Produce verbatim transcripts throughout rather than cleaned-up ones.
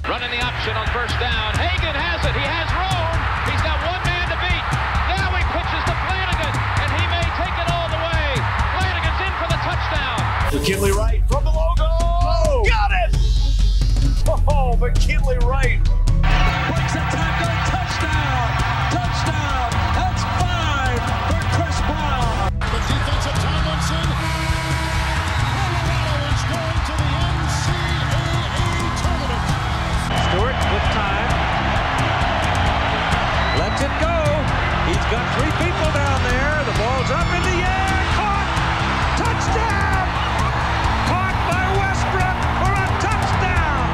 Running the option on first down. Hagan has it. He has room. He's got one man to beat. Now he pitches to Flanagan, and he may take it all the way. Flanagan's in for the touchdown. McKinley Wright from the logo. Oh, got it! Oh, McKinley Wright. Breaks a tackle. Touchdown. Touchdown. That's five for Chris Brown. The defensive Tomlinson. Colorado is going to the N C double A tournament. Stewart with time. Lets it go. He's got three people down there. The ball's up in the air. Caught. Touchdown. Caught by Westbrook for a touchdown.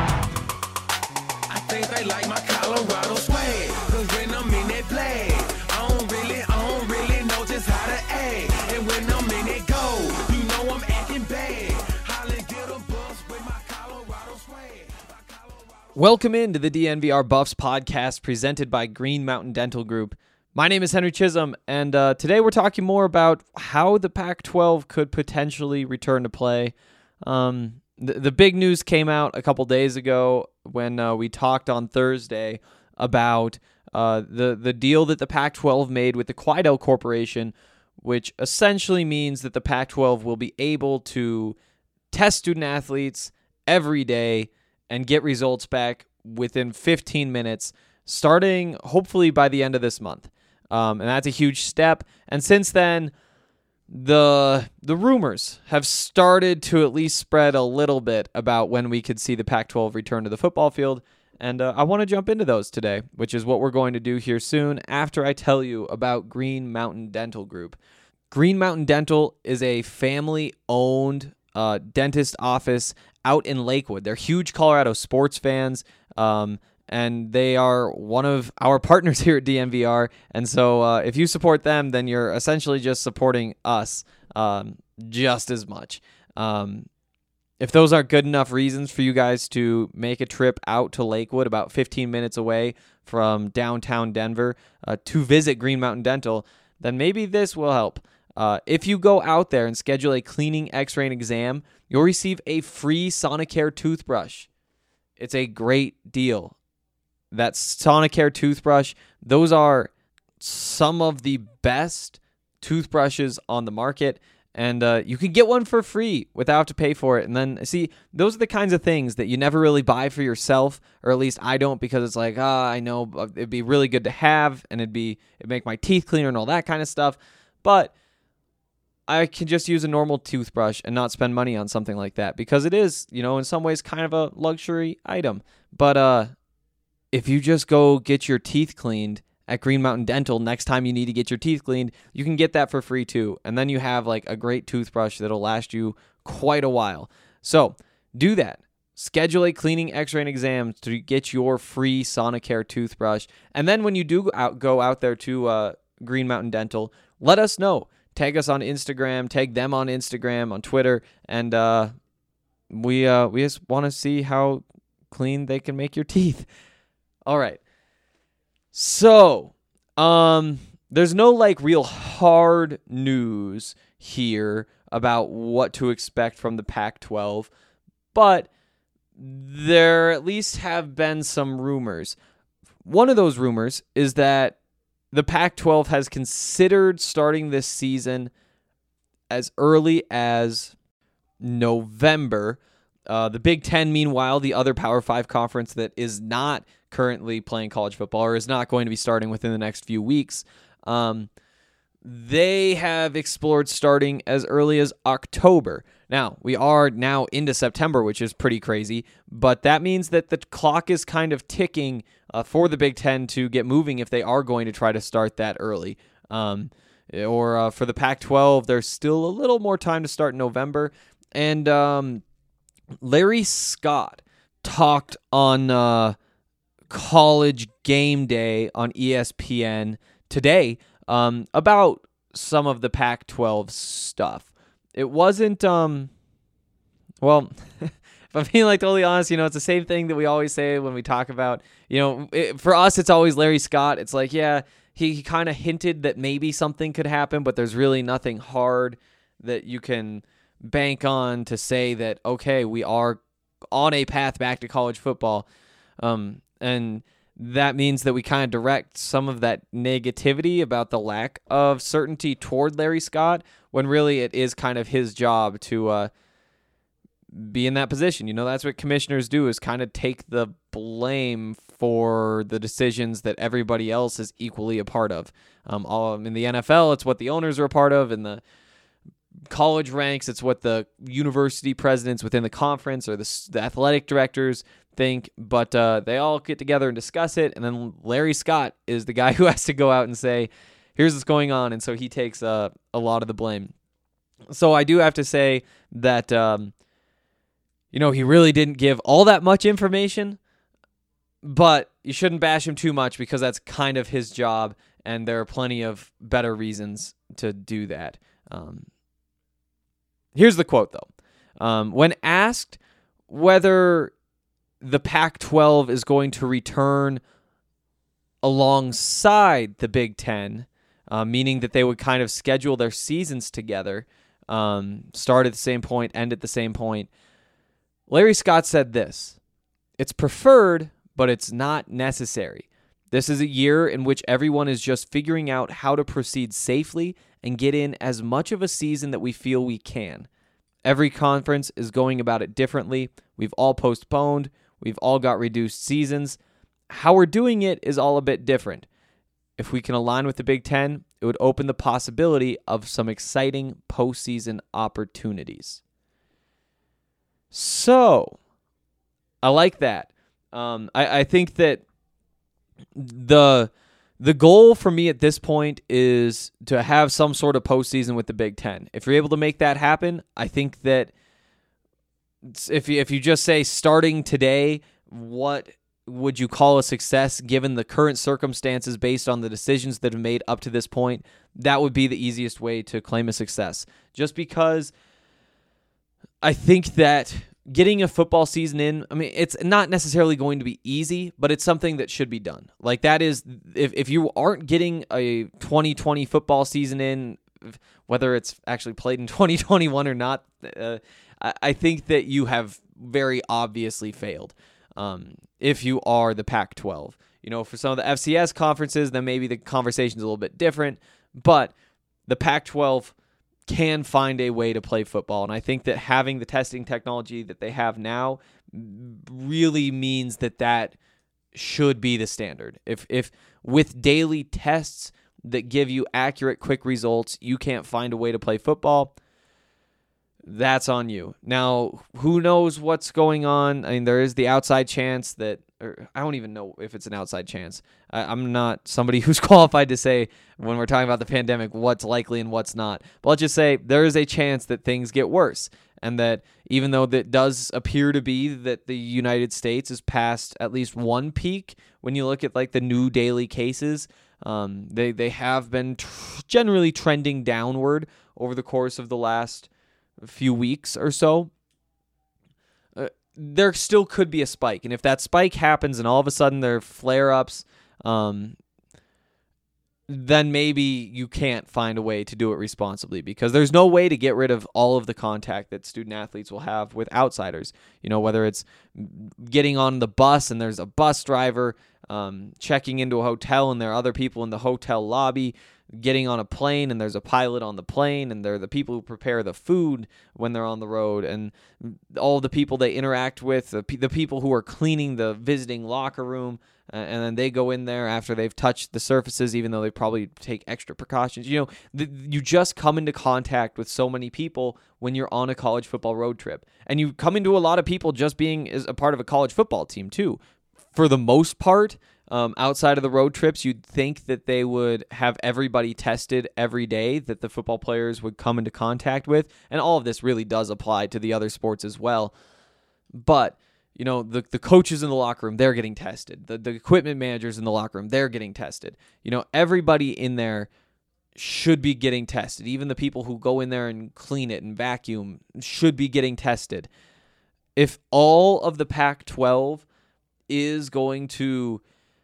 I think they like my Colorado swag. Cause when I'm in that play, I don't really, I don't really know just how to act. And when I'm in it go, you know I'm acting bad. Holly get a bus with my Colorado swag. Welcome into the D N V R Buffs podcast presented by Green Mountain Dental Group. My name is Henry Chisholm, and uh, today we're talking more about how the Pac twelve could potentially return to play. Um, the, the big news came out a couple days ago when uh, we talked on Thursday about uh, the, the deal that the Pac twelve made with the Quidel Corporation, which essentially means that the Pac twelve will be able to test student-athletes every day and get results back within fifteen minutes, starting hopefully by the end of this month. Um, and that's a huge step. And since then, the the rumors have started to at least spread a little bit about when we could see the Pac twelve return to the football field. And uh, I want to jump into those today, which is what we're going to do here soon after I tell you about Green Mountain Dental Group. Green Mountain Dental is a family-owned uh, dentist office out in Lakewood. They're huge Colorado sports fans, um, and they are one of our partners here at D N V R. And so uh, if you support them, then you're essentially just supporting us um, just as much. Um, if those aren't good enough reasons for you guys to make a trip out to Lakewood, about fifteen minutes away from downtown Denver, uh, to visit Green Mountain Dental, then maybe this will help. Uh, if you go out there and schedule a cleaning, x-ray, and exam, you'll receive a free Sonicare toothbrush. It's a great deal. That Sonicare toothbrush, those are some of the best toothbrushes on the market, and uh, you can get one for free without having to pay for it. And then, see, those are the kinds of things that you never really buy for yourself, or at least I don't, because it's like, ah, I know it'd be really good to have, and it'd be it'd make my teeth cleaner and all that kind of stuff, but I can just use a normal toothbrush and not spend money on something like that, because it is, you know, in some ways kind of a luxury item. But uh, if you just go get your teeth cleaned at Green Mountain Dental next time you need to get your teeth cleaned, you can get that for free too. And then you have like a great toothbrush that'll last you quite a while. So do that. Schedule a cleaning, x-ray, and exam to get your free Sonicare toothbrush. And then when you do out, go out there to uh, Green Mountain Dental, let us know. Tag us on Instagram, tag them on Instagram, on Twitter, and uh, we uh, we just want to see how clean they can make your teeth. All right. So, um, there's no like real hard news here about what to expect from the Pac twelve, but there at least have been some rumors. One of those rumors is that the Pac twelve has considered starting this season as early as November. Uh, the Big Ten, meanwhile, the other Power Five conference that is not currently playing college football or is not going to be starting within the next few weeks, um, they have explored starting as early as October. Now, we are now into September, which is pretty crazy, but that means that the clock is kind of ticking uh, for the Big Ten to get moving if they are going to try to start that early. Um, or uh, for the Pac twelve, there's still a little more time to start in November. And um, Larry Scott talked on uh, College Game Day on E S P N today um, about some of the Pac twelve stuff. It wasn't, um, well, if I'm being like totally honest, you know, it's the same thing that we always say when we talk about, you know, it, for us, it's always Larry Scott. It's like, yeah, he, he kind of hinted that maybe something could happen, but there's really nothing hard that you can bank on to say that, okay, we are on a path back to college football. Um, and that means that we kind of direct some of that negativity about the lack of certainty toward Larry Scott, when really it is kind of his job to uh, be in that position. You know, that's what commissioners do, is kind of take the blame for the decisions that everybody else is equally a part of. Um, all in the N F L, it's what the owners are a part of. In the college ranks, it's what the university presidents within the conference or the, the athletic directors think, but uh, they all get together and discuss it, and then Larry Scott is the guy who has to go out and say, here's what's going on, and so he takes uh, a lot of the blame. So I do have to say that, um, you know, he really didn't give all that much information, but you shouldn't bash him too much because that's kind of his job, and there are plenty of better reasons to do that. Um, here's the quote, though. Um, when asked whether the Pac twelve is going to return alongside the Big Ten, uh, meaning that they would kind of schedule their seasons together, um, start at the same point, end at the same point, Larry Scott said this: "It's preferred, but it's not necessary. This is a year in which everyone is just figuring out how to proceed safely and get in as much of a season that we feel we can. Every conference is going about it differently. We've all postponed. We've all got reduced seasons. How we're doing it is all a bit different. If we can align with the Big Ten, it would open the possibility of some exciting postseason opportunities." So, I like that. Um, I, I think that the the goal for me at this point is to have some sort of postseason with the Big Ten. If you're able to make that happen, I think that if you, if you just say starting today, what would you call a success given the current circumstances based on the decisions that have made up to this point, that would be the easiest way to claim a success. Just because I think that getting a football season in, I mean, it's not necessarily going to be easy, but it's something that should be done. Like that is, if, if you aren't getting a twenty twenty football season in, whether it's actually played in twenty twenty-one or not, uh, I, I think that you have very obviously failed. Um, if you are the Pac twelve, you know, for some of the F C S conferences, then maybe the conversation's a little bit different, but the Pac twelve can find a way to play football. And I think that having the testing technology that they have now really means that that should be the standard. If if with daily tests that give you accurate, quick results, you can't find a way to play football, that's on you. Now, who knows what's going on? I mean, there is the outside chance that, or I don't even know if it's an outside chance. I, I'm not somebody who's qualified to say when we're talking about the pandemic what's likely and what's not. But let's just say there is a chance that things get worse, and that even though that does appear to be that the United States is past at least one peak, when you look at like the new daily cases, um, they they have been tr- generally trending downward over the course of the last few weeks or so. Uh, there still could be a spike, and if that spike happens and all of a sudden there are flare-ups, um, then maybe you can't find a way to do it responsibly, because there's no way to get rid of all of the contact that student athletes will have with outsiders. You know, whether it's getting on the bus and there's a bus driver, um, checking into a hotel and there are other people in the hotel lobby, getting on a plane and there's a pilot on the plane, and they're the people who prepare the food when they're on the road, and all the people they interact with, the, the people who are cleaning the visiting locker room, uh, and then they go in there after they've touched the surfaces, even though they probably take extra precautions. You know, the, you just come into contact with so many people when you're on a college football road trip, and you come into a lot of people just being as a part of a college football team too. For the most part, Um, outside of the road trips, you'd think that they would have everybody tested every day that the football players would come into contact with. And all of this really does apply to the other sports as well. But, you know, the, the coaches in the locker room, they're getting tested. The, the equipment managers in the locker room, they're getting tested. You know, everybody in there should be getting tested. Even the people who go in there and clean it and vacuum should be getting tested. If all of the Pac twelve is going to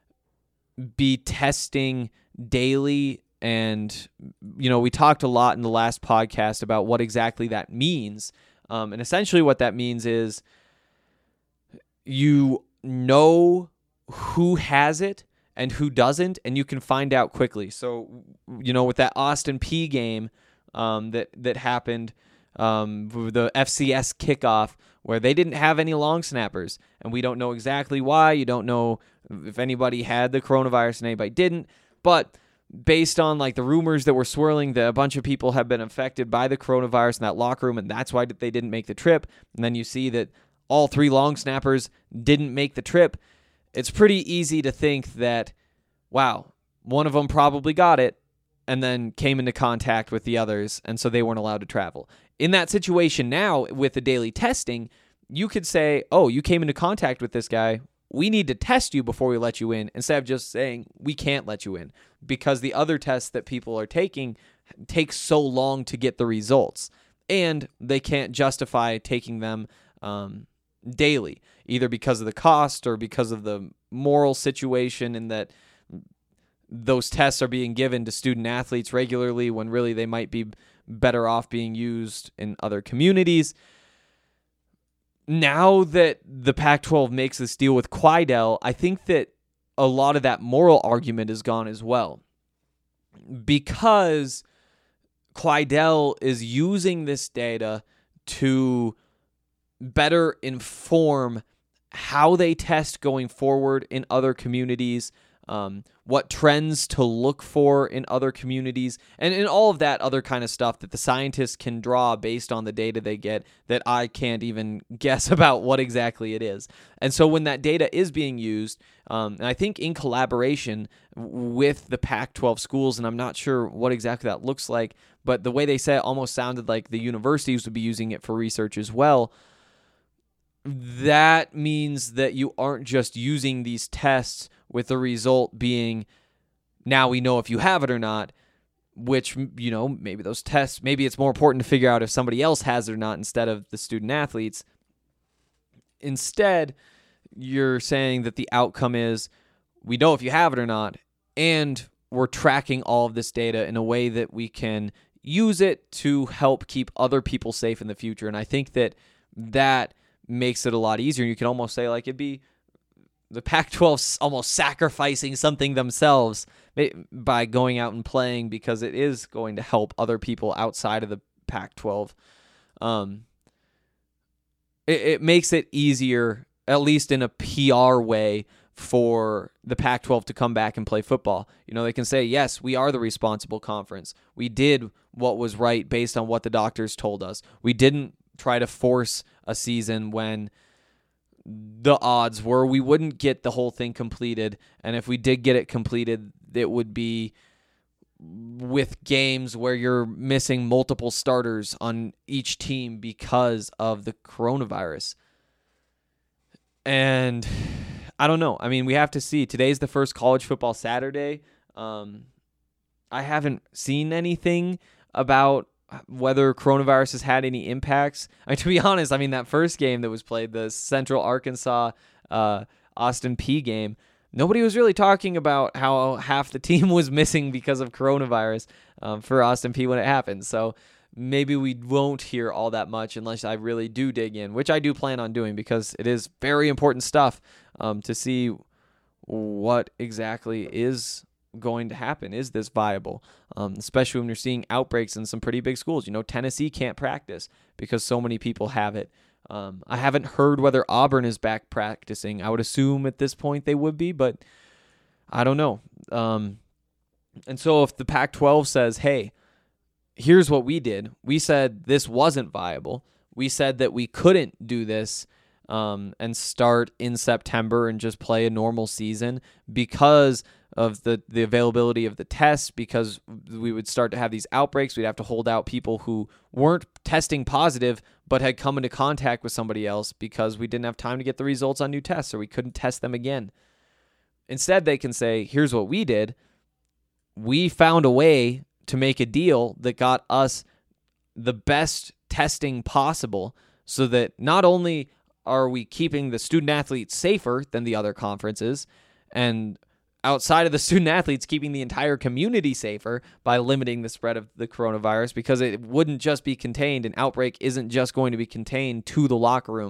be testing daily, and you know, we talked a lot in the last podcast about what exactly that means, um, and essentially what that means is you know who has it and who doesn't, and you can find out quickly. So, you know, with that Austin Peay game um, that that happened, um, the F C S kickoff, where they didn't have any long snappers, and we don't know exactly why. You don't know if anybody had the coronavirus and anybody didn't, but based on like the rumors that were swirling that a bunch of people have been infected by the coronavirus in that locker room, and that's why they didn't make the trip. And then you see that all three long snappers didn't make the trip. It's pretty easy to think that, wow, one of them probably got it and then came into contact with the others, and so they weren't allowed to travel. In that situation now, with the daily testing, you could say, oh, you came into contact with this guy. We need to test you before we let you in, instead of just saying we can't let you in, because the other tests that people are taking take so long to get the results, and they can't justify taking them um, daily, either because of the cost or because of the moral situation, in that those tests are being given to student athletes regularly when really they might be better off being used in other communities. Now that the Pac twelve makes this deal with Quidel, I think that a lot of that moral argument is gone as well, because Quidel is using this data to better inform how they test going forward in other communities, um, what trends to look for in other communities, and, and all of that other kind of stuff that the scientists can draw based on the data they get that I can't even guess about what exactly it is. And so when that data is being used, um, and I think in collaboration with the Pac twelve schools, and I'm not sure what exactly that looks like, but the way they said it almost sounded like the universities would be using it for research as well. That means that you aren't just using these tests with the result being, now we know if you have it or not, which, you know, maybe those tests, maybe it's more important to figure out if somebody else has it or not instead of the student athletes. Instead, you're saying that the outcome is, we know if you have it or not, and we're tracking all of this data in a way that we can use it to help keep other people safe in the future. And I think that that makes it a lot easier. You can almost say, like, it'd be the Pac twelve almost sacrificing something themselves by going out and playing, because it is going to help other people outside of the Pac twelve. Um, it, it makes it easier, at least in a P R way, for the Pac twelve to come back and play football. You know, they can say, yes, we are the responsible conference. We did what was right based on what the doctors told us. We didn't try to force a season when the odds were we wouldn't get the whole thing completed. And if we did get it completed, it would be with games where you're missing multiple starters on each team because of the coronavirus. And I don't know. I mean, we have to see. Today's the first college football Saturday. Um, I haven't seen anything about whether coronavirus has had any impacts. I mean, to be honest, I mean, that first game that was played, the Central Arkansas uh, Austin Peay game, nobody was really talking about how half the team was missing because of coronavirus um, for Austin Peay when it happened. So maybe we won't hear all that much unless I really do dig in, which I do plan on doing, because it is very important stuff um, to see what exactly is going to happen. Is this viable? Um, especially when you're seeing outbreaks in some pretty big schools. You know, Tennessee can't practice because so many people have it. Um, I haven't heard whether Auburn is back practicing. I would assume at this point they would be, but I don't know. Um, and so if the Pac twelve says, hey, here's what we did. We said this wasn't viable. We said that we couldn't do this um, and start in September and just play a normal season because of the, the availability of the tests, because we would start to have these outbreaks. We'd have to hold out people who weren't testing positive but had come into contact with somebody else because we didn't have time to get the results on new tests, or we couldn't test them again. Instead, they can say, here's what we did. We found a way to make a deal that got us the best testing possible, so that not only are we keeping the student athletes safer than the other conferences, and outside of the student athletes, keeping the entire community safer by limiting the spread of the coronavirus, because it wouldn't just be contained. An outbreak isn't just going to be contained to the locker room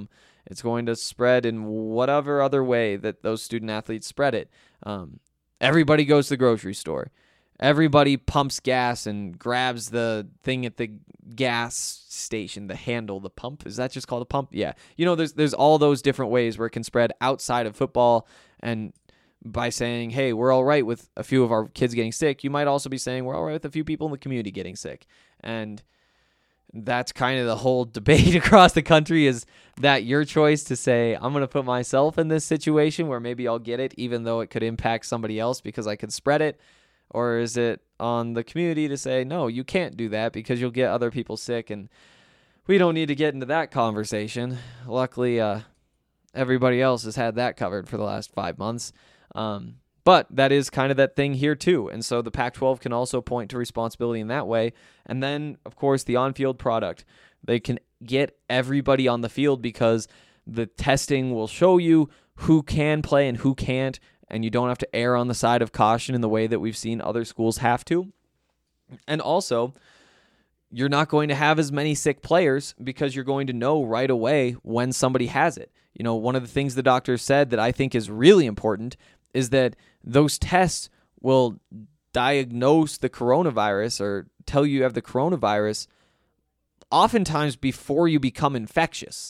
It's going to spread in whatever other way that those student athletes spread it. Um, everybody goes to the grocery store. Everybody pumps gas and grabs the thing at the gas station, the handle, the pump. Is that just called a pump? Yeah. You know, there's there's all those different ways where it can spread outside of football. And by saying, hey, we're all right with a few of our kids getting sick, you might also be saying we're all right with a few people in the community getting sick. And that's kind of the whole debate across the country. Is that your choice to say, I'm going to put myself in this situation where maybe I'll get it, even though it could impact somebody else because I could spread it? Or is it on the community to say, no, you can't do that because you'll get other people sick, and we don't need to get into that conversation. Luckily, uh, everybody else has had that covered for the last five months. Um, but that is kind of that thing here too. And so the Pac twelve can also point to responsibility in that way. And then, of course, the on-field product. They can get everybody on the field because the testing will show you who can play and who can't, and you don't have to err on the side of caution in the way that we've seen other schools have to. And also, you're not going to have as many sick players because you're going to know right away when somebody has it. You know, one of the things the doctor said that I think is really important is that those tests will diagnose the coronavirus or tell you you have the coronavirus oftentimes before you become infectious.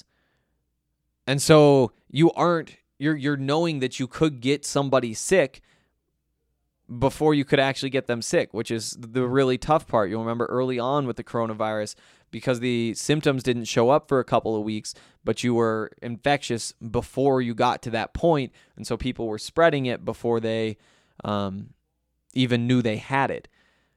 And so you aren't You're you're knowing that you could get somebody sick before you could actually get them sick, which is the really tough part. You'll remember early on with the coronavirus, because the symptoms didn't show up for a couple of weeks, but you were infectious before you got to that point, and so people were spreading it before they um, even knew they had it.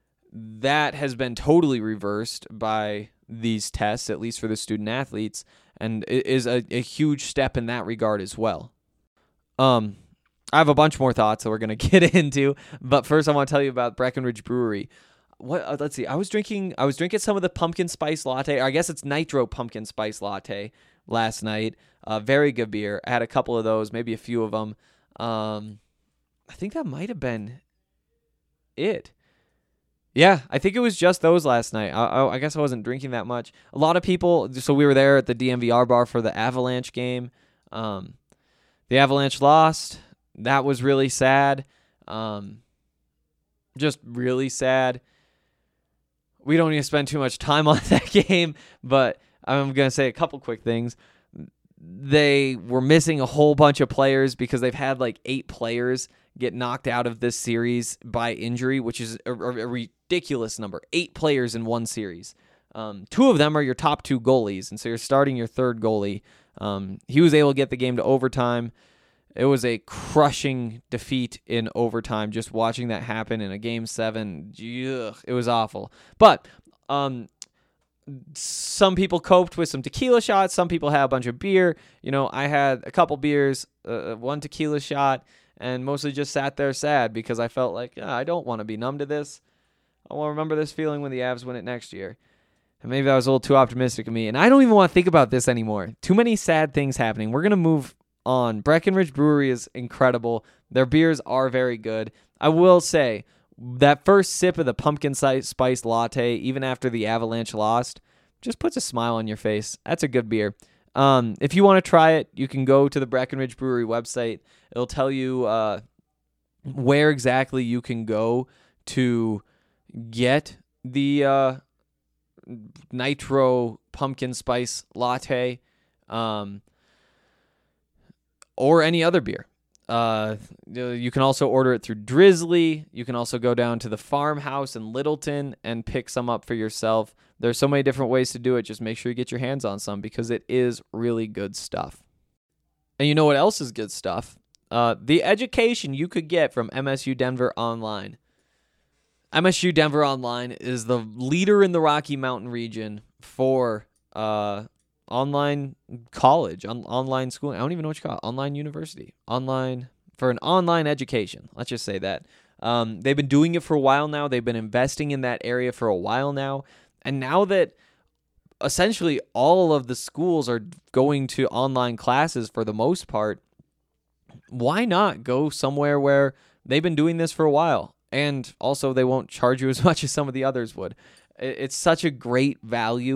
That has been totally reversed by these tests, at least for the student athletes, and it is a, a huge step in that regard as well. Um, I have a bunch more thoughts that we're going to get into, but first I want to tell you about Breckenridge Brewery. What? Uh, let's see. I was drinking. I was drinking some of the pumpkin spice latte. Or I guess it's nitro pumpkin spice latte last night. Uh, very good beer. I had a couple of those, maybe a few of them. Um, I think that might have been it. Yeah, I think it was just those last night. I, I, I guess I wasn't drinking that much. A lot of people. So we were there at the D N V R bar for the Avalanche game. Um, The Avalanche lost. That was really sad. Um, just really sad. We don't need to spend too much time on that game, but I'm going to say a couple quick things. They were missing a whole bunch of players because they've had like eight players get knocked out of this series by injury, which is a, a ridiculous number. Eight players in one series. Um, two of them are your top two goalies, and so you're starting your third goalie. Um, he was able to get the game to overtime. It was a crushing defeat in overtime, just watching that happen in a game seven. Ugh, it was awful. But um, some people coped with some tequila shots. Some people had a bunch of beer. You know, I had a couple beers, uh, one tequila shot, and mostly just sat there sad because I felt like, oh, I don't want to be numb to this. I want to remember this feeling when the Avs win it next year. And maybe that was a little too optimistic of me. And I don't even want to think about this anymore. Too many sad things happening. We're going to move on. Breckenridge Brewery is incredible. Their beers are very good. I will say, that first sip of the pumpkin spice latte, even after the Avalanche lost, just puts a smile on your face. That's a good beer. Um, if you want to try it, you can go to the Breckenridge Brewery website. It'll tell you uh, where exactly you can go to get the uh, nitro pumpkin spice latte, um, or any other beer. Uh, you can also order it through Drizzly. You can also go down to the farmhouse in Littleton and pick some up for yourself. There's so many different ways to do it. Just make sure you get your hands on some because it is really good stuff. And you know what else is good stuff? Uh, the education you could get from M S U Denver Online. M S U Denver Online is the leader in the Rocky Mountain region for uh, online college, on, online school. I don't even know what you call it. Online university. Online, for an online education. Let's just say that. Um, they've been doing it for a while now. They've been investing in that area for a while now. And now that essentially all of the schools are going to online classes for the most part, why not go somewhere where they've been doing this for a while? And also they won't charge you as much as some of the others would. It's such a great value.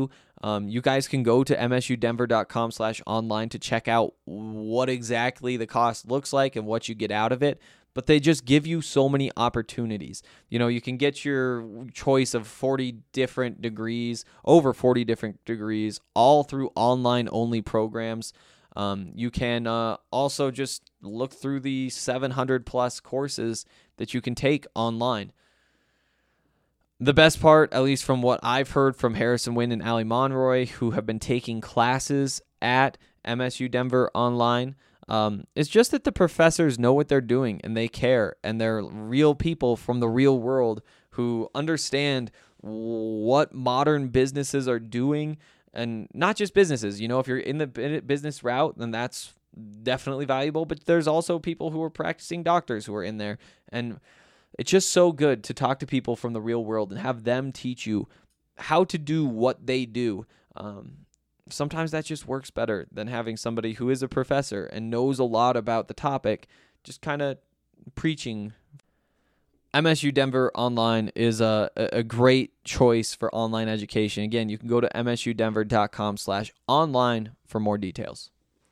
Um, you guys can go to msudenver.com slash online to check out what exactly the cost looks like and what you get out of it. But they just give you so many opportunities. You know, you can get your choice of forty different degrees, over forty different degrees, all through online-only programs. Um, you can uh, also just look through the seven hundred plus courses that you can take online. The best part, at least from what I've heard from Harrison Wind and Ali Monroy, who have been taking classes at M S U Denver online, um, is just that the professors know what they're doing and they care, and they're real people from the real world who understand what modern businesses are doing. And not just businesses, you know, if you're in the business route, then that's definitely valuable. But there's also people who are practicing doctors who are in there. And it's just so good to talk to people from the real world and have them teach you how to do what they do. Um, sometimes that just works better than having somebody who is a professor and knows a lot about the topic just kind of preaching. M S U Denver Online is a, a great choice for online education. Again, you can go to msudenver.com slash online for more details.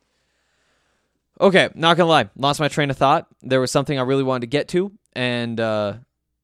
Okay, not going to lie. Lost my train of thought. There was something I really wanted to get to, and uh,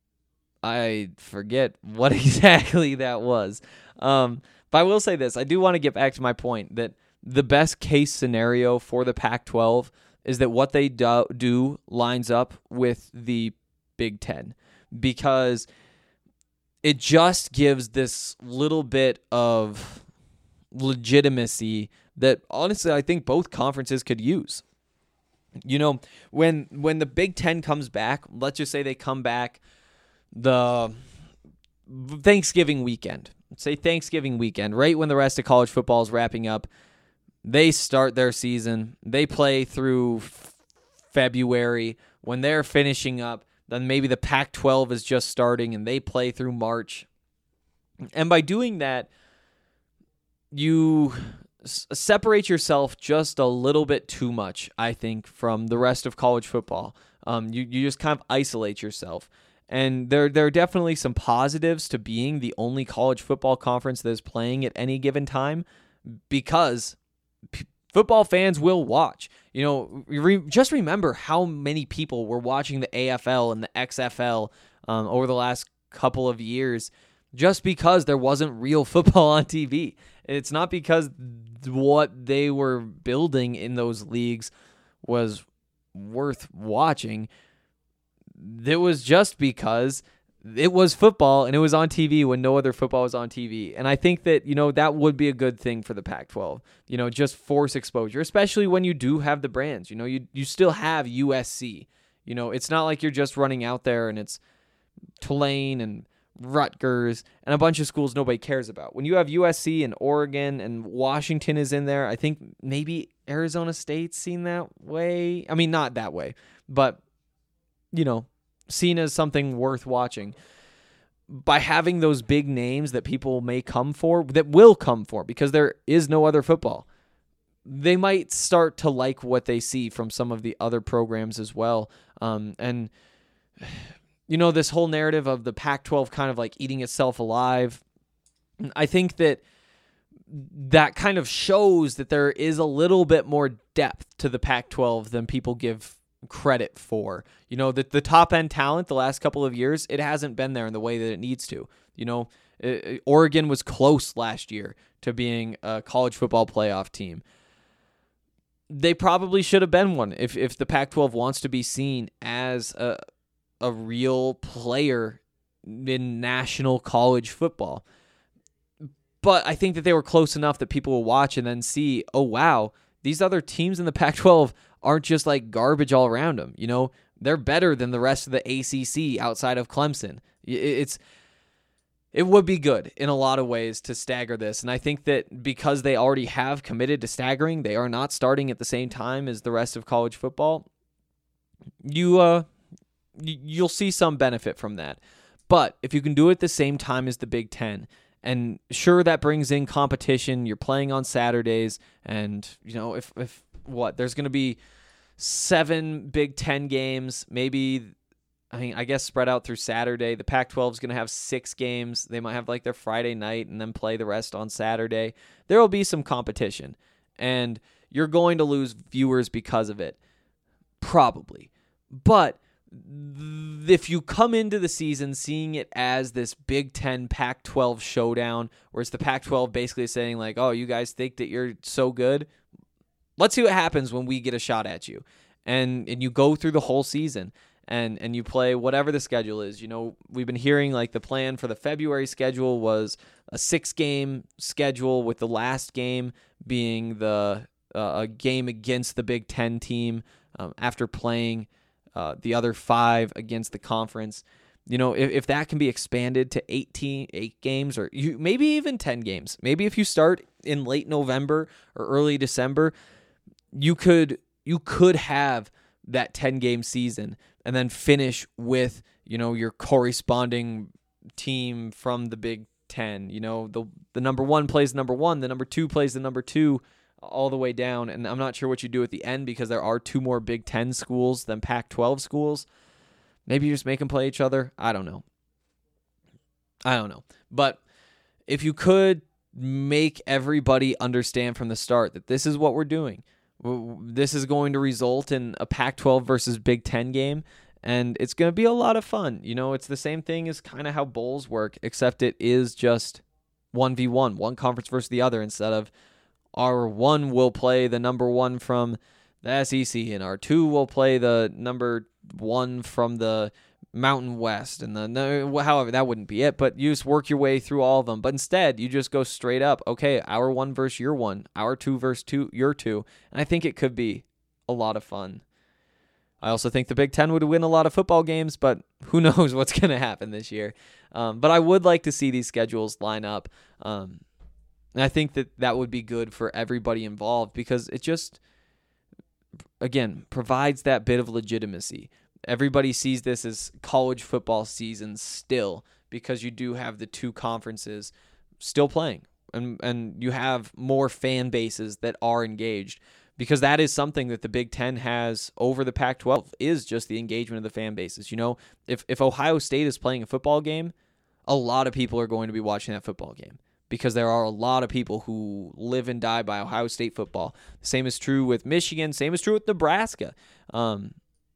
I forget what exactly that was. Um, but I will say this. I do want to get back to my point that the best case scenario for the Pac twelve is that what they do, do lines up with the Big Ten, because it just gives this little bit of legitimacy that honestly I think both conferences could use. You know, when when the Big Ten comes back, let's just say they come back the Thanksgiving weekend. Let's say Thanksgiving weekend, right when the rest of college football is wrapping up. They start their season. They play through February. When they're finishing up, then maybe the Pac twelve is just starting and they play through March. And by doing that, you s- separate yourself just a little bit too much, I think, from the rest of college football. Um, you, you just kind of isolate yourself. And there, there are definitely some positives to being the only college football conference that is playing at any given time, because p- football fans will watch. You know, re- just remember how many people were watching the A F L and the X F L um, over the last couple of years just because there wasn't real football on T V. It's not because what they were building in those leagues was worth watching. It was just because it was football and it was on T V when no other football was on T V. And I think that, you know, that would be a good thing for the Pac twelve, you know, just force exposure, especially when you do have the brands. You know, you, you still have U S C. You know, it's not like you're just running out there and it's Tulane and Rutgers and a bunch of schools nobody cares about. When you have U S C and Oregon and Washington is in there, I think maybe Arizona State's seen that way. I mean, not that way, but, you know, seen as something worth watching. By having those big names that people may come for, that will come for, because there is no other football, they might start to like what they see from some of the other programs as well. Um, and, you know, this whole narrative of the Pac twelve kind of like eating itself alive, I think that that kind of shows that there is a little bit more depth to the Pac twelve than people give credit for. You know, that the top end talent the last couple of years, it hasn't been there in the way that it needs to. You know, it, Oregon was close last year to being a college football playoff team. They probably should have been one if if the Pac twelve wants to be seen as a a real player in national college football. But I think that they were close enough that people will watch and then see, oh wow, these other teams in the Pac twelve aren't just like garbage all around them. You know, they're better than the rest of the A C C outside of Clemson. It's it would be good in a lot of ways to stagger this. And I think that because they already have committed to staggering, they are not starting at the same time as the rest of college football. You, uh, you'll see some benefit from that. But if you can do it at the same time as the Big Ten, and sure, that brings in competition. You're playing on Saturdays, and, you know, if, if what, there's going to be seven Big Ten games, maybe I mean, I guess spread out through Saturday. The Pac twelve is going to have six games. They might have like their Friday night and then play the rest on Saturday. There will be some competition, and you're going to lose viewers because of it. Probably. But if you come into the season seeing it as this Big Ten Pac twelve showdown, where it's the Pac twelve basically saying like, oh, you guys think that you're so good? Let's see what happens when we get a shot at you. And and you go through the whole season. And and you play whatever the schedule is. You know, we've been hearing like the plan for the February schedule was a six-game schedule with the last game being the uh, a game against the Big Ten team um, after playing uh, the other five against the conference. You know, if, if that can be expanded to eighteen, eight games or you, maybe even ten games. Maybe if you start in late November or early December, you could you could have that ten-game season and then finish with, you know, your corresponding team from the Big Ten. You know, the the number one plays the number one, the number two plays the number two, all the way down. And I'm not sure what you do at the end because there are two more Big Ten schools than Pac twelve schools. Maybe you just make them play each other. I don't know. I don't know. But if you could make everybody understand from the start that this is what we're doing, this is going to result in a Pac twelve versus Big Ten game, and it's going to be a lot of fun. You know, it's the same thing as kind of how bowls work, except it is just one v one, one conference versus the other, instead of our one will play the number one from the S E C, and our two will play the number one from the Mountain West, and the no, however, that wouldn't be it, but you just work your way through all of them. But instead, you just go straight up. Okay, our one versus your one, our two versus two, your two, and I think it could be a lot of fun. I also think the Big Ten would win a lot of football games, but who knows what's going to happen this year. Um, but I would like to see these schedules line up, um, and I think that that would be good for everybody involved because it just, again, provides that bit of legitimacy. Everybody sees this as college football season still because you do have the two conferences still playing, and and you have more fan bases that are engaged, because that is something that the Big Ten has over the Pac twelve is just the engagement of the fan bases. You know, if if Ohio State is playing a football game, a lot of people are going to be watching that football game because there are a lot of people who live and die by Ohio State football. The same is true with Michigan. Same is true with Nebraska. Um,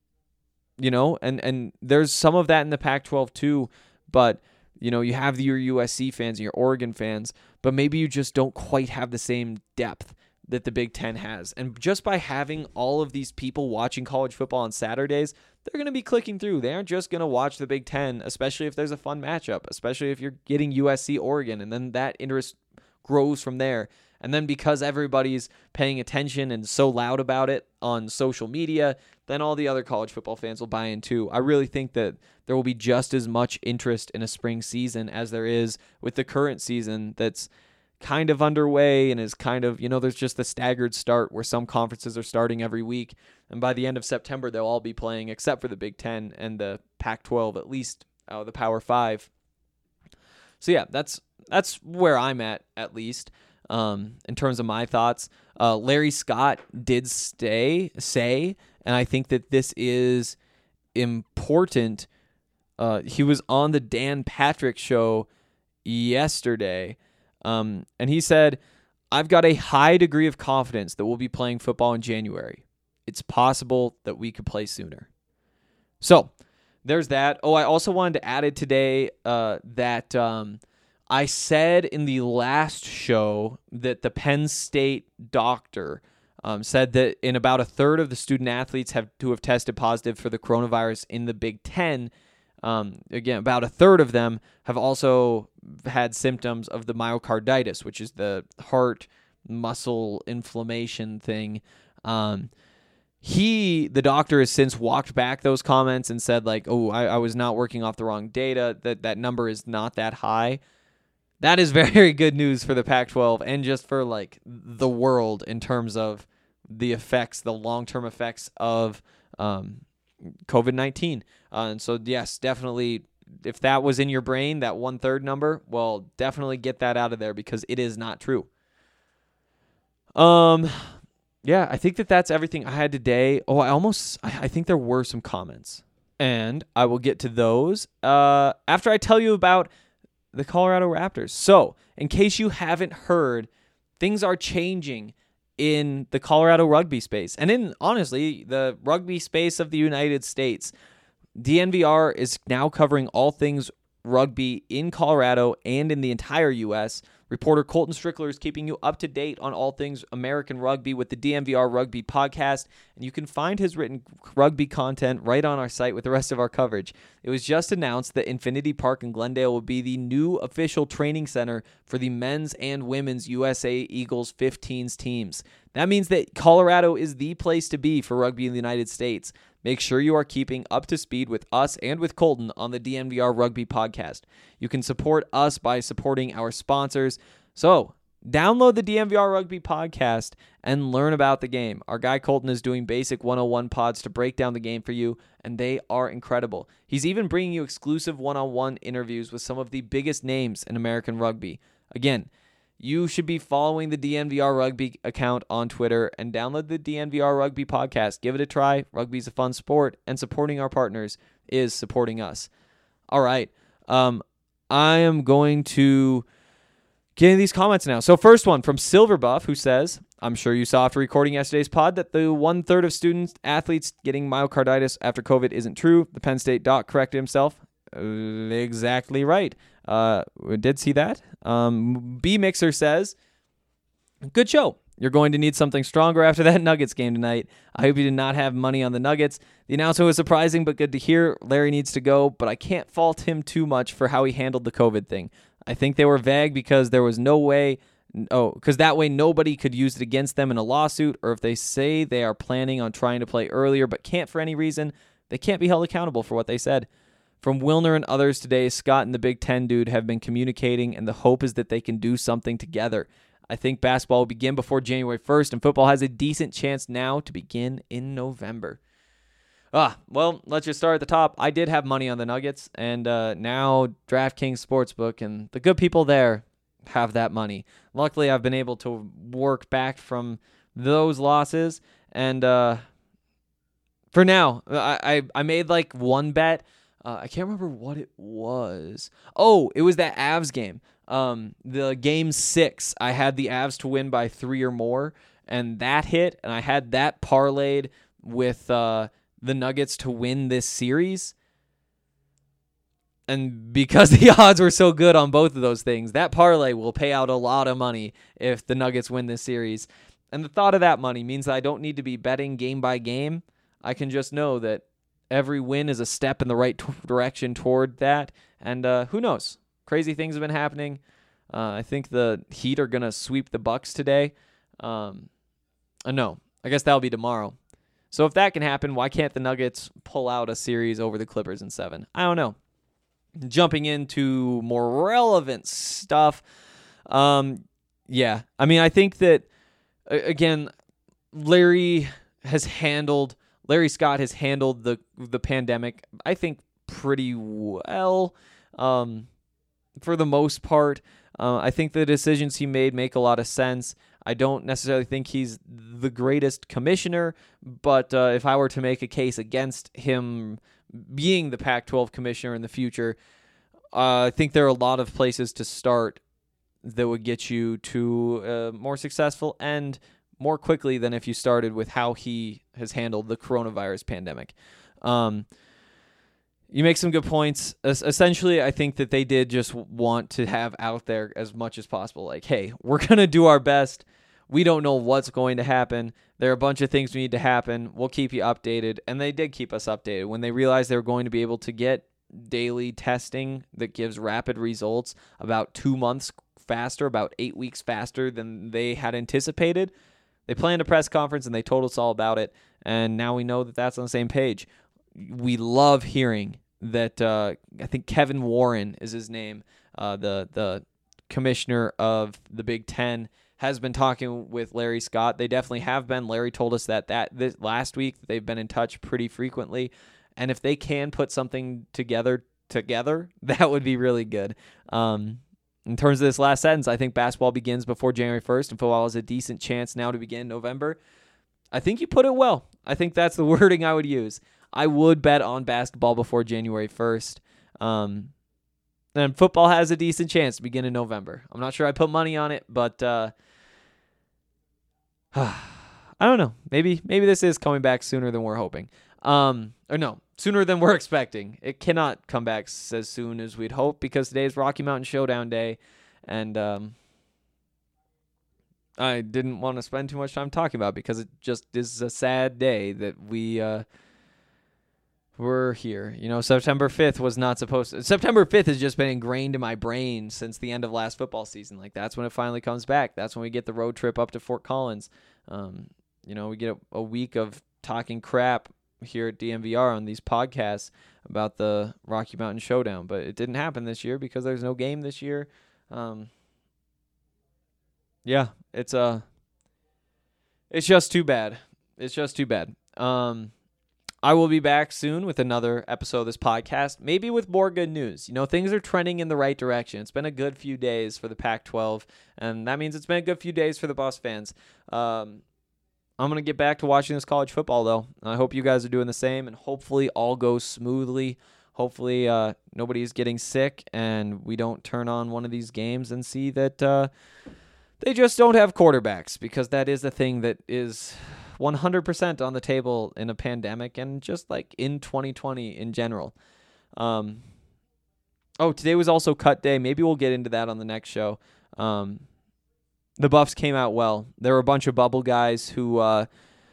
You know, and, and there's some of that in the Pac twelve too, but, you know, you have your U S C fans and your Oregon fans, but maybe you just don't quite have the same depth that the Big Ten has. And just by having all of these people watching college football on Saturdays, they're going to be clicking through. They aren't just going to watch the Big Ten, especially if there's a fun matchup, especially if you're getting U S C Oregon, and then that interest grows from there. And then because everybody's paying attention and so loud about it on social media, then all the other college football fans will buy in too. I really think that there will be just as much interest in a spring season as there is with the current season that's kind of underway and is kind of, you know, there's just the staggered start where some conferences are starting every week. And by the end of September, they'll all be playing except for the Big Ten and the Pac twelve, at least uh, the Power Five. So yeah, that's that's where I'm at, at least. Um, in terms of my thoughts, uh, Larry Scott did stay, say, and I think that this is important. Uh, he was on the Dan Patrick show yesterday, um, and he said, I've got a high degree of confidence that we'll be playing football in January. It's possible that we could play sooner. So there's that. Oh, I also wanted to add it today uh, that um, I said in the last show that the Penn State doctor um, said that in about a third of the student athletes have to have tested positive for the coronavirus in the Big Ten. Um, again, about a third of them have also had symptoms of the myocarditis, which is the heart muscle inflammation thing. Um, he, the doctor, has since walked back those comments and said, like, oh, I, I was not working off the wrong data, that that number is not that high. That is very good news for the Pac twelve and just for, like, the world in terms of the effects, the long-term effects of um, covid nineteen. Uh, and so, yes, definitely, if that was in your brain, that one-third number, well, definitely get that out of there because it is not true. Um, yeah, I think that that's everything I had today. Oh, I almost, I, I think there were some comments. And I will get to those uh, after I tell you about the Colorado Raptors. So, in case you haven't heard, things are changing in the Colorado rugby space. And in, honestly, the rugby space of the United States. D N V R is now covering all things rugby in Colorado and in the entire U S. Reporter Colton Strickler is keeping you up to date on all things American rugby with the D N V R Rugby Podcast, and you can find his written rugby content right on our site with the rest of our coverage. It was just announced that Infinity Park in Glendale will be the new official training center for the men's and women's U S A Eagles fifteens teams. That means that Colorado is the place to be for rugby in the United States. Make sure you are keeping up to speed with us and with Colton on the D N V R Rugby Podcast. You can support us by supporting our sponsors. So, download the D N V R Rugby Podcast and learn about the game. Our guy Colton is doing basic one oh one pods to break down the game for you, and they are incredible. He's even bringing you exclusive one-on-one interviews with some of the biggest names in American rugby. Again, you should be following the D N V R Rugby account on Twitter and download the D N V R Rugby Podcast. Give it a try. Rugby's a fun sport, and supporting our partners is supporting us. All right. Um, I am going to get into these comments now. So first one from Silverbuff, who says, I'm sure you saw after recording yesterday's pod that the one-third of students, athletes getting myocarditis after COVID isn't true. The Penn State doc corrected himself. Uh, exactly right. Uh, we did see that. Um, B Mixer says, good show. You're going to need something stronger after that Nuggets game tonight. I hope you did not have money on the Nuggets. The announcement was surprising, but good to hear. Larry needs to go, but I can't fault him too much for how he handled the COVID thing. I think they were vague because there was no way, oh, because that way nobody could use it against them in a lawsuit, or if they say they are planning on trying to play earlier but can't for any reason, they can't be held accountable for what they said. From Wilner and others today, Scott and the Big Ten dude have been communicating, and the hope is that they can do something together. I think basketball will begin before January first, and football has a decent chance now to begin in November. Ah, well, let's just start at the top. I did have money on the Nuggets, and uh, now DraftKings Sportsbook and the good people there have that money. Luckily, I've been able to work back from those losses, and uh, for now, I, I, I made like one bet. Uh, I can't remember what it was. Oh, it was that Avs game. Um, the game six, I had the Avs to win by three or more, and that hit, and I had that parlayed with uh, the Nuggets to win this series. And because the odds were so good on both of those things, that parlay will pay out a lot of money if the Nuggets win this series. And the thought of that money means that I don't need to be betting game by game. I can just know that every win is a step in the right t- direction toward that. And uh, who knows? Crazy things have been happening. Uh, I think the Heat are going to sweep the Bucks today. Um, uh, no, I guess that'll be tomorrow. So if that can happen, why can't the Nuggets pull out a series over the Clippers in seven? I don't know. Jumping into more relevant stuff. Um, yeah, I mean, I think that, again, Larry has handled... Larry Scott has handled the the pandemic, I think, pretty well um, for the most part. Uh, I think the decisions he made make a lot of sense. I don't necessarily think he's the greatest commissioner, but uh, if I were to make a case against him being the Pac twelve commissioner in the future, uh, I think there are a lot of places to start that would get you to a more successful end more quickly than if you started with how he has handled the coronavirus pandemic. Um, you make some good points. Es- essentially, I think that they did just want to have out there as much as possible. Like, hey, we're going to do our best. We don't know what's going to happen. There are a bunch of things we need to happen. We'll keep you updated. And they did keep us updated. When they realized they were going to be able to get daily testing that gives rapid results about two months faster, about eight weeks faster than they had anticipated, they planned a press conference and they told us all about it, and now we know that that's on the same page. We love hearing that. Uh, I think Kevin Warren is his name, uh, the the commissioner of the Big Ten, has been talking with Larry Scott. They definitely have been. Larry told us that that this, last week they've been in touch pretty frequently, and if they can put something together together, that would be really good. Um, In terms of this last sentence, I think basketball begins before January first, and football has a decent chance now to begin in November. I think you put it well. I think that's the wording I would use. I would bet on basketball before January first. Um, and football has a decent chance to begin in November. I'm not sure I put money on it, but uh, I don't know. Maybe maybe this is coming back sooner than we're hoping. Um, or no, sooner than we're expecting. It cannot come back as soon as we'd hope because today is Rocky Mountain Showdown Day, and um, I didn't want to spend too much time talking about it because it just is a sad day that we uh, were here. You know, September fifth was not supposed to. September fifth has just been ingrained in my brain since the end of last football season. Like, that's when it finally comes back. That's when we get the road trip up to Fort Collins. Um, you know, we get a, a week of talking crap here at D N V R on these podcasts about the Rocky Mountain Showdown, but it didn't happen this year because there's no game this year. Um, yeah, it's uh, it's just too bad. It's just too bad. Um, I will be back soon with another episode of this podcast, maybe with more good news. You know, things are trending in the right direction. It's been a good few days for the Pac twelve, and that means it's been a good few days for the Buffs fans. Um, I'm going to get back to watching this college football, though. I hope you guys are doing the same, and hopefully all goes smoothly. Hopefully uh, nobody's getting sick, and we don't turn on one of these games and see that uh, they just don't have quarterbacks, because that is a thing that is one hundred percent on the table in a pandemic and just like in twenty twenty in general. Um, oh, today was also cut day. Maybe we'll get into that on the next show. Um, the Buffs came out well. There were a bunch of bubble guys who uh,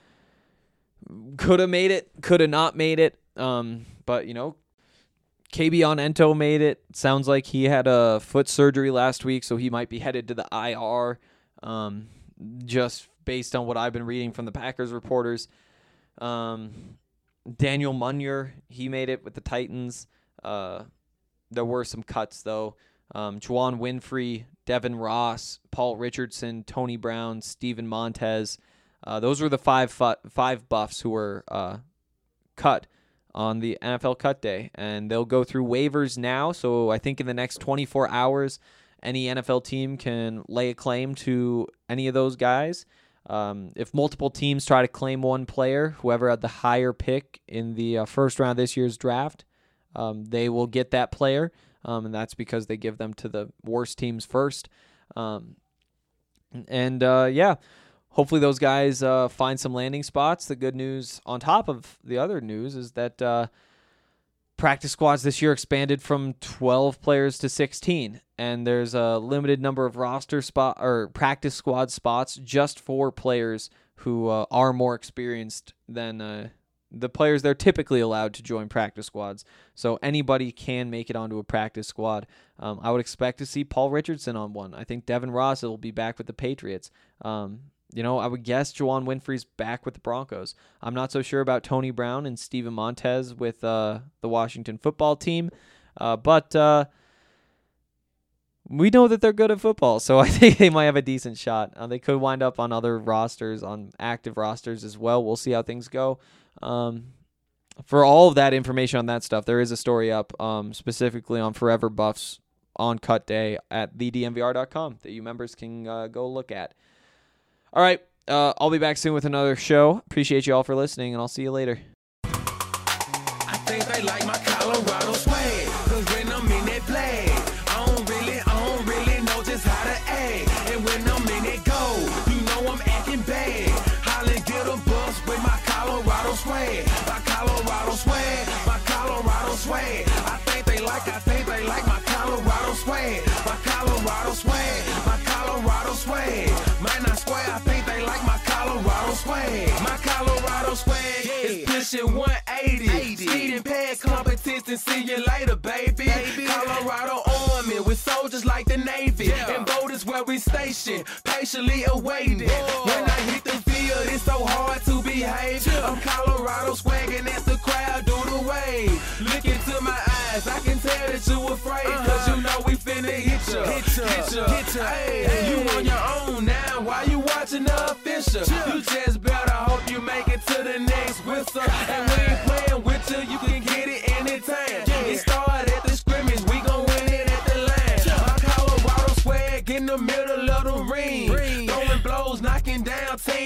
could have made it, could have not made it. Um, but, you know, Kabion Ento made it. Sounds like he had a foot surgery last week, so he might be headed to the I R. Um, just based on what I've been reading from the Packers reporters. Um, Daniel Munyer, he made it with the Titans. Uh, there were some cuts, though. Um, Juwan Winfrey, Devin Ross, Paul Richardson, Tony Brown, Steven Montez. Uh, those were the five fu- five Buffs who were uh, cut on the N F L cut day. And they'll go through waivers now, so I think in the next twenty-four hours, any N F L team can lay a claim to any of those guys. Um, if multiple teams try to claim one player, whoever had the higher pick in the uh, first round of this year's draft, um, they will get that player, um, and that's because they give them to the worst teams first. Um, and, uh, yeah, hopefully those guys uh, find some landing spots. The good news on top of the other news is that uh, practice squads this year expanded from twelve players to sixteen, and there's a limited number of roster spot or practice squad spots just for players who uh, are more experienced than uh, the players they're typically allowed to join practice squads. So anybody can make it onto a practice squad. Um, I would expect to see Paul Richardson on one. I think Devin Ross will be back with the Patriots. Um, You know, I would guess Juwan Winfrey's back with the Broncos. I'm not so sure about Tony Brown and Steven Montez with uh, the Washington football team, uh, but uh, we know that they're good at football, so I think they might have a decent shot. Uh, they could wind up on other rosters, on active rosters as well. We'll see how things go. Um, for all of that information on that stuff, there is a story up um, specifically on Forever Buffs on cut day at the D N V R dot com that you members can uh, go look at. All right, uh, I'll be back soon with another show. Appreciate you all for listening, and I'll see you later. I think they like my Colorado swag, cause when I'm in that flag, I don't really, I don't really know just how to act. And when I'm in that goal, you know I'm acting bad. Hollin' get a bus with my Colorado swag, my Colorado swag, my Colorado swag. I think they like, I think they like my Colorado swag, my Colorado swag, my Colorado swag. Man, I swear, I think they like my Colorado swag. My Colorado swag is pushing one eighty. Speeding past competition, see you later, baby. baby. Colorado Army with soldiers like the Navy. Yeah. And boat is where we station, patiently awaiting. Whoa. When I hit the field, it's so hard to behave. Yeah. I'm Colorado swagging as the crowd do the wave. Look into my eyes, I can tell that you afraid. Uh-huh. Cause you know we finna hit ya. Hit ya, hit ya, hit ya. Hey, hey. You on your own now, why you watching the official? Yeah. You just better hope you make it to the next whistle. And we ain't playing with you, you can get it anytime. Yeah. It started at the scrimmage, we gon' win it at the line. Yeah. My Colorado swag in the middle of the ring. ring. Throwing blows, knocking down teams.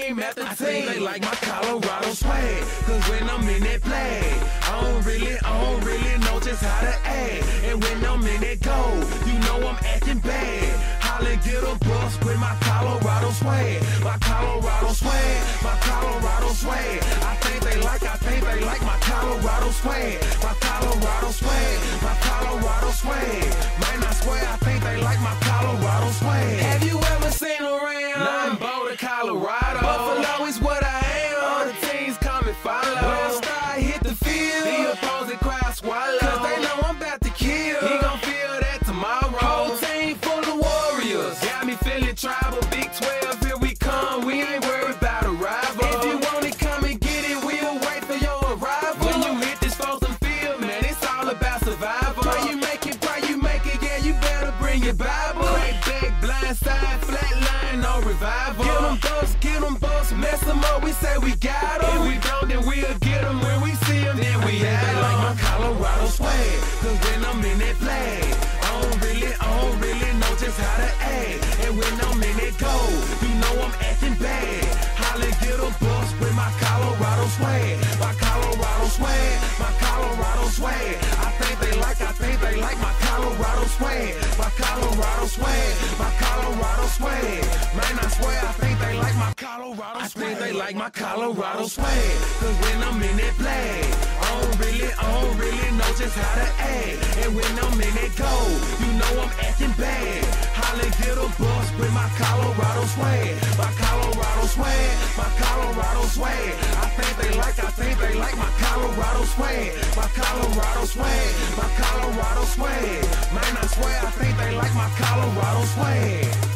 team after team. I think they like my Colorado swag, cause when I'm in that play, I don't really, I don't really know just how to act. And when I'm in that goal, you know I'm acting bad. Holla, get a bus with my Colorado swag, my Colorado swag, my Colorado swag. I think they like, I think they like my Colorado swag, my Colorado swag, my Colorado swag. Man, I swear, I think they like my Colorado swag. Have you ever seen around? Nothing Boulder, Colorado. Buffalo is what I am. All the teams come and follow. When I start hit the field, the opposing crowd swallow. Cause they know I'm about to kill. He gon' feel that tomorrow. Whole team full of warriors. Got me feeling tribal. Big twelve, here we come. We ain't worried about a rival. If you want it, come and get it. We'll wait for your arrival. When you hit this frozen field, man, it's all about survival. Pray you make it, pray you make it. Yeah, you better bring your Bible. Crack back, blind side, flat line, no revival. Get them busts, get them busts, mess them up. We say we got them. If we don't, then we'll get them. When we see them, then we have them. Like my Colorado swag, cause when I'm in that flag, I don't really, I don't really know just how to act. And when I'm in that goal, you know I'm acting bad. Holla, get a bus with my Colorado swag, my Colorado swag, my Colorado swag. I think they like, I think they like my Colorado swag, my Colorado swag, my Colorado swag. Man, I swear, I think they like my Colorado swag. I think they like my Colorado swag, cause when I'm in that flag, I don't really, I don't really know just how to act. And when I'm in that goal, you know I'm acting bad. Holla, get a bus with my Colorado swag, my Colorado swag, my Colorado swag. I think they like, I think they like my Colorado swag, my Colorado swag, my Colorado swag. Man, I swear, I think they like my Colorado swag.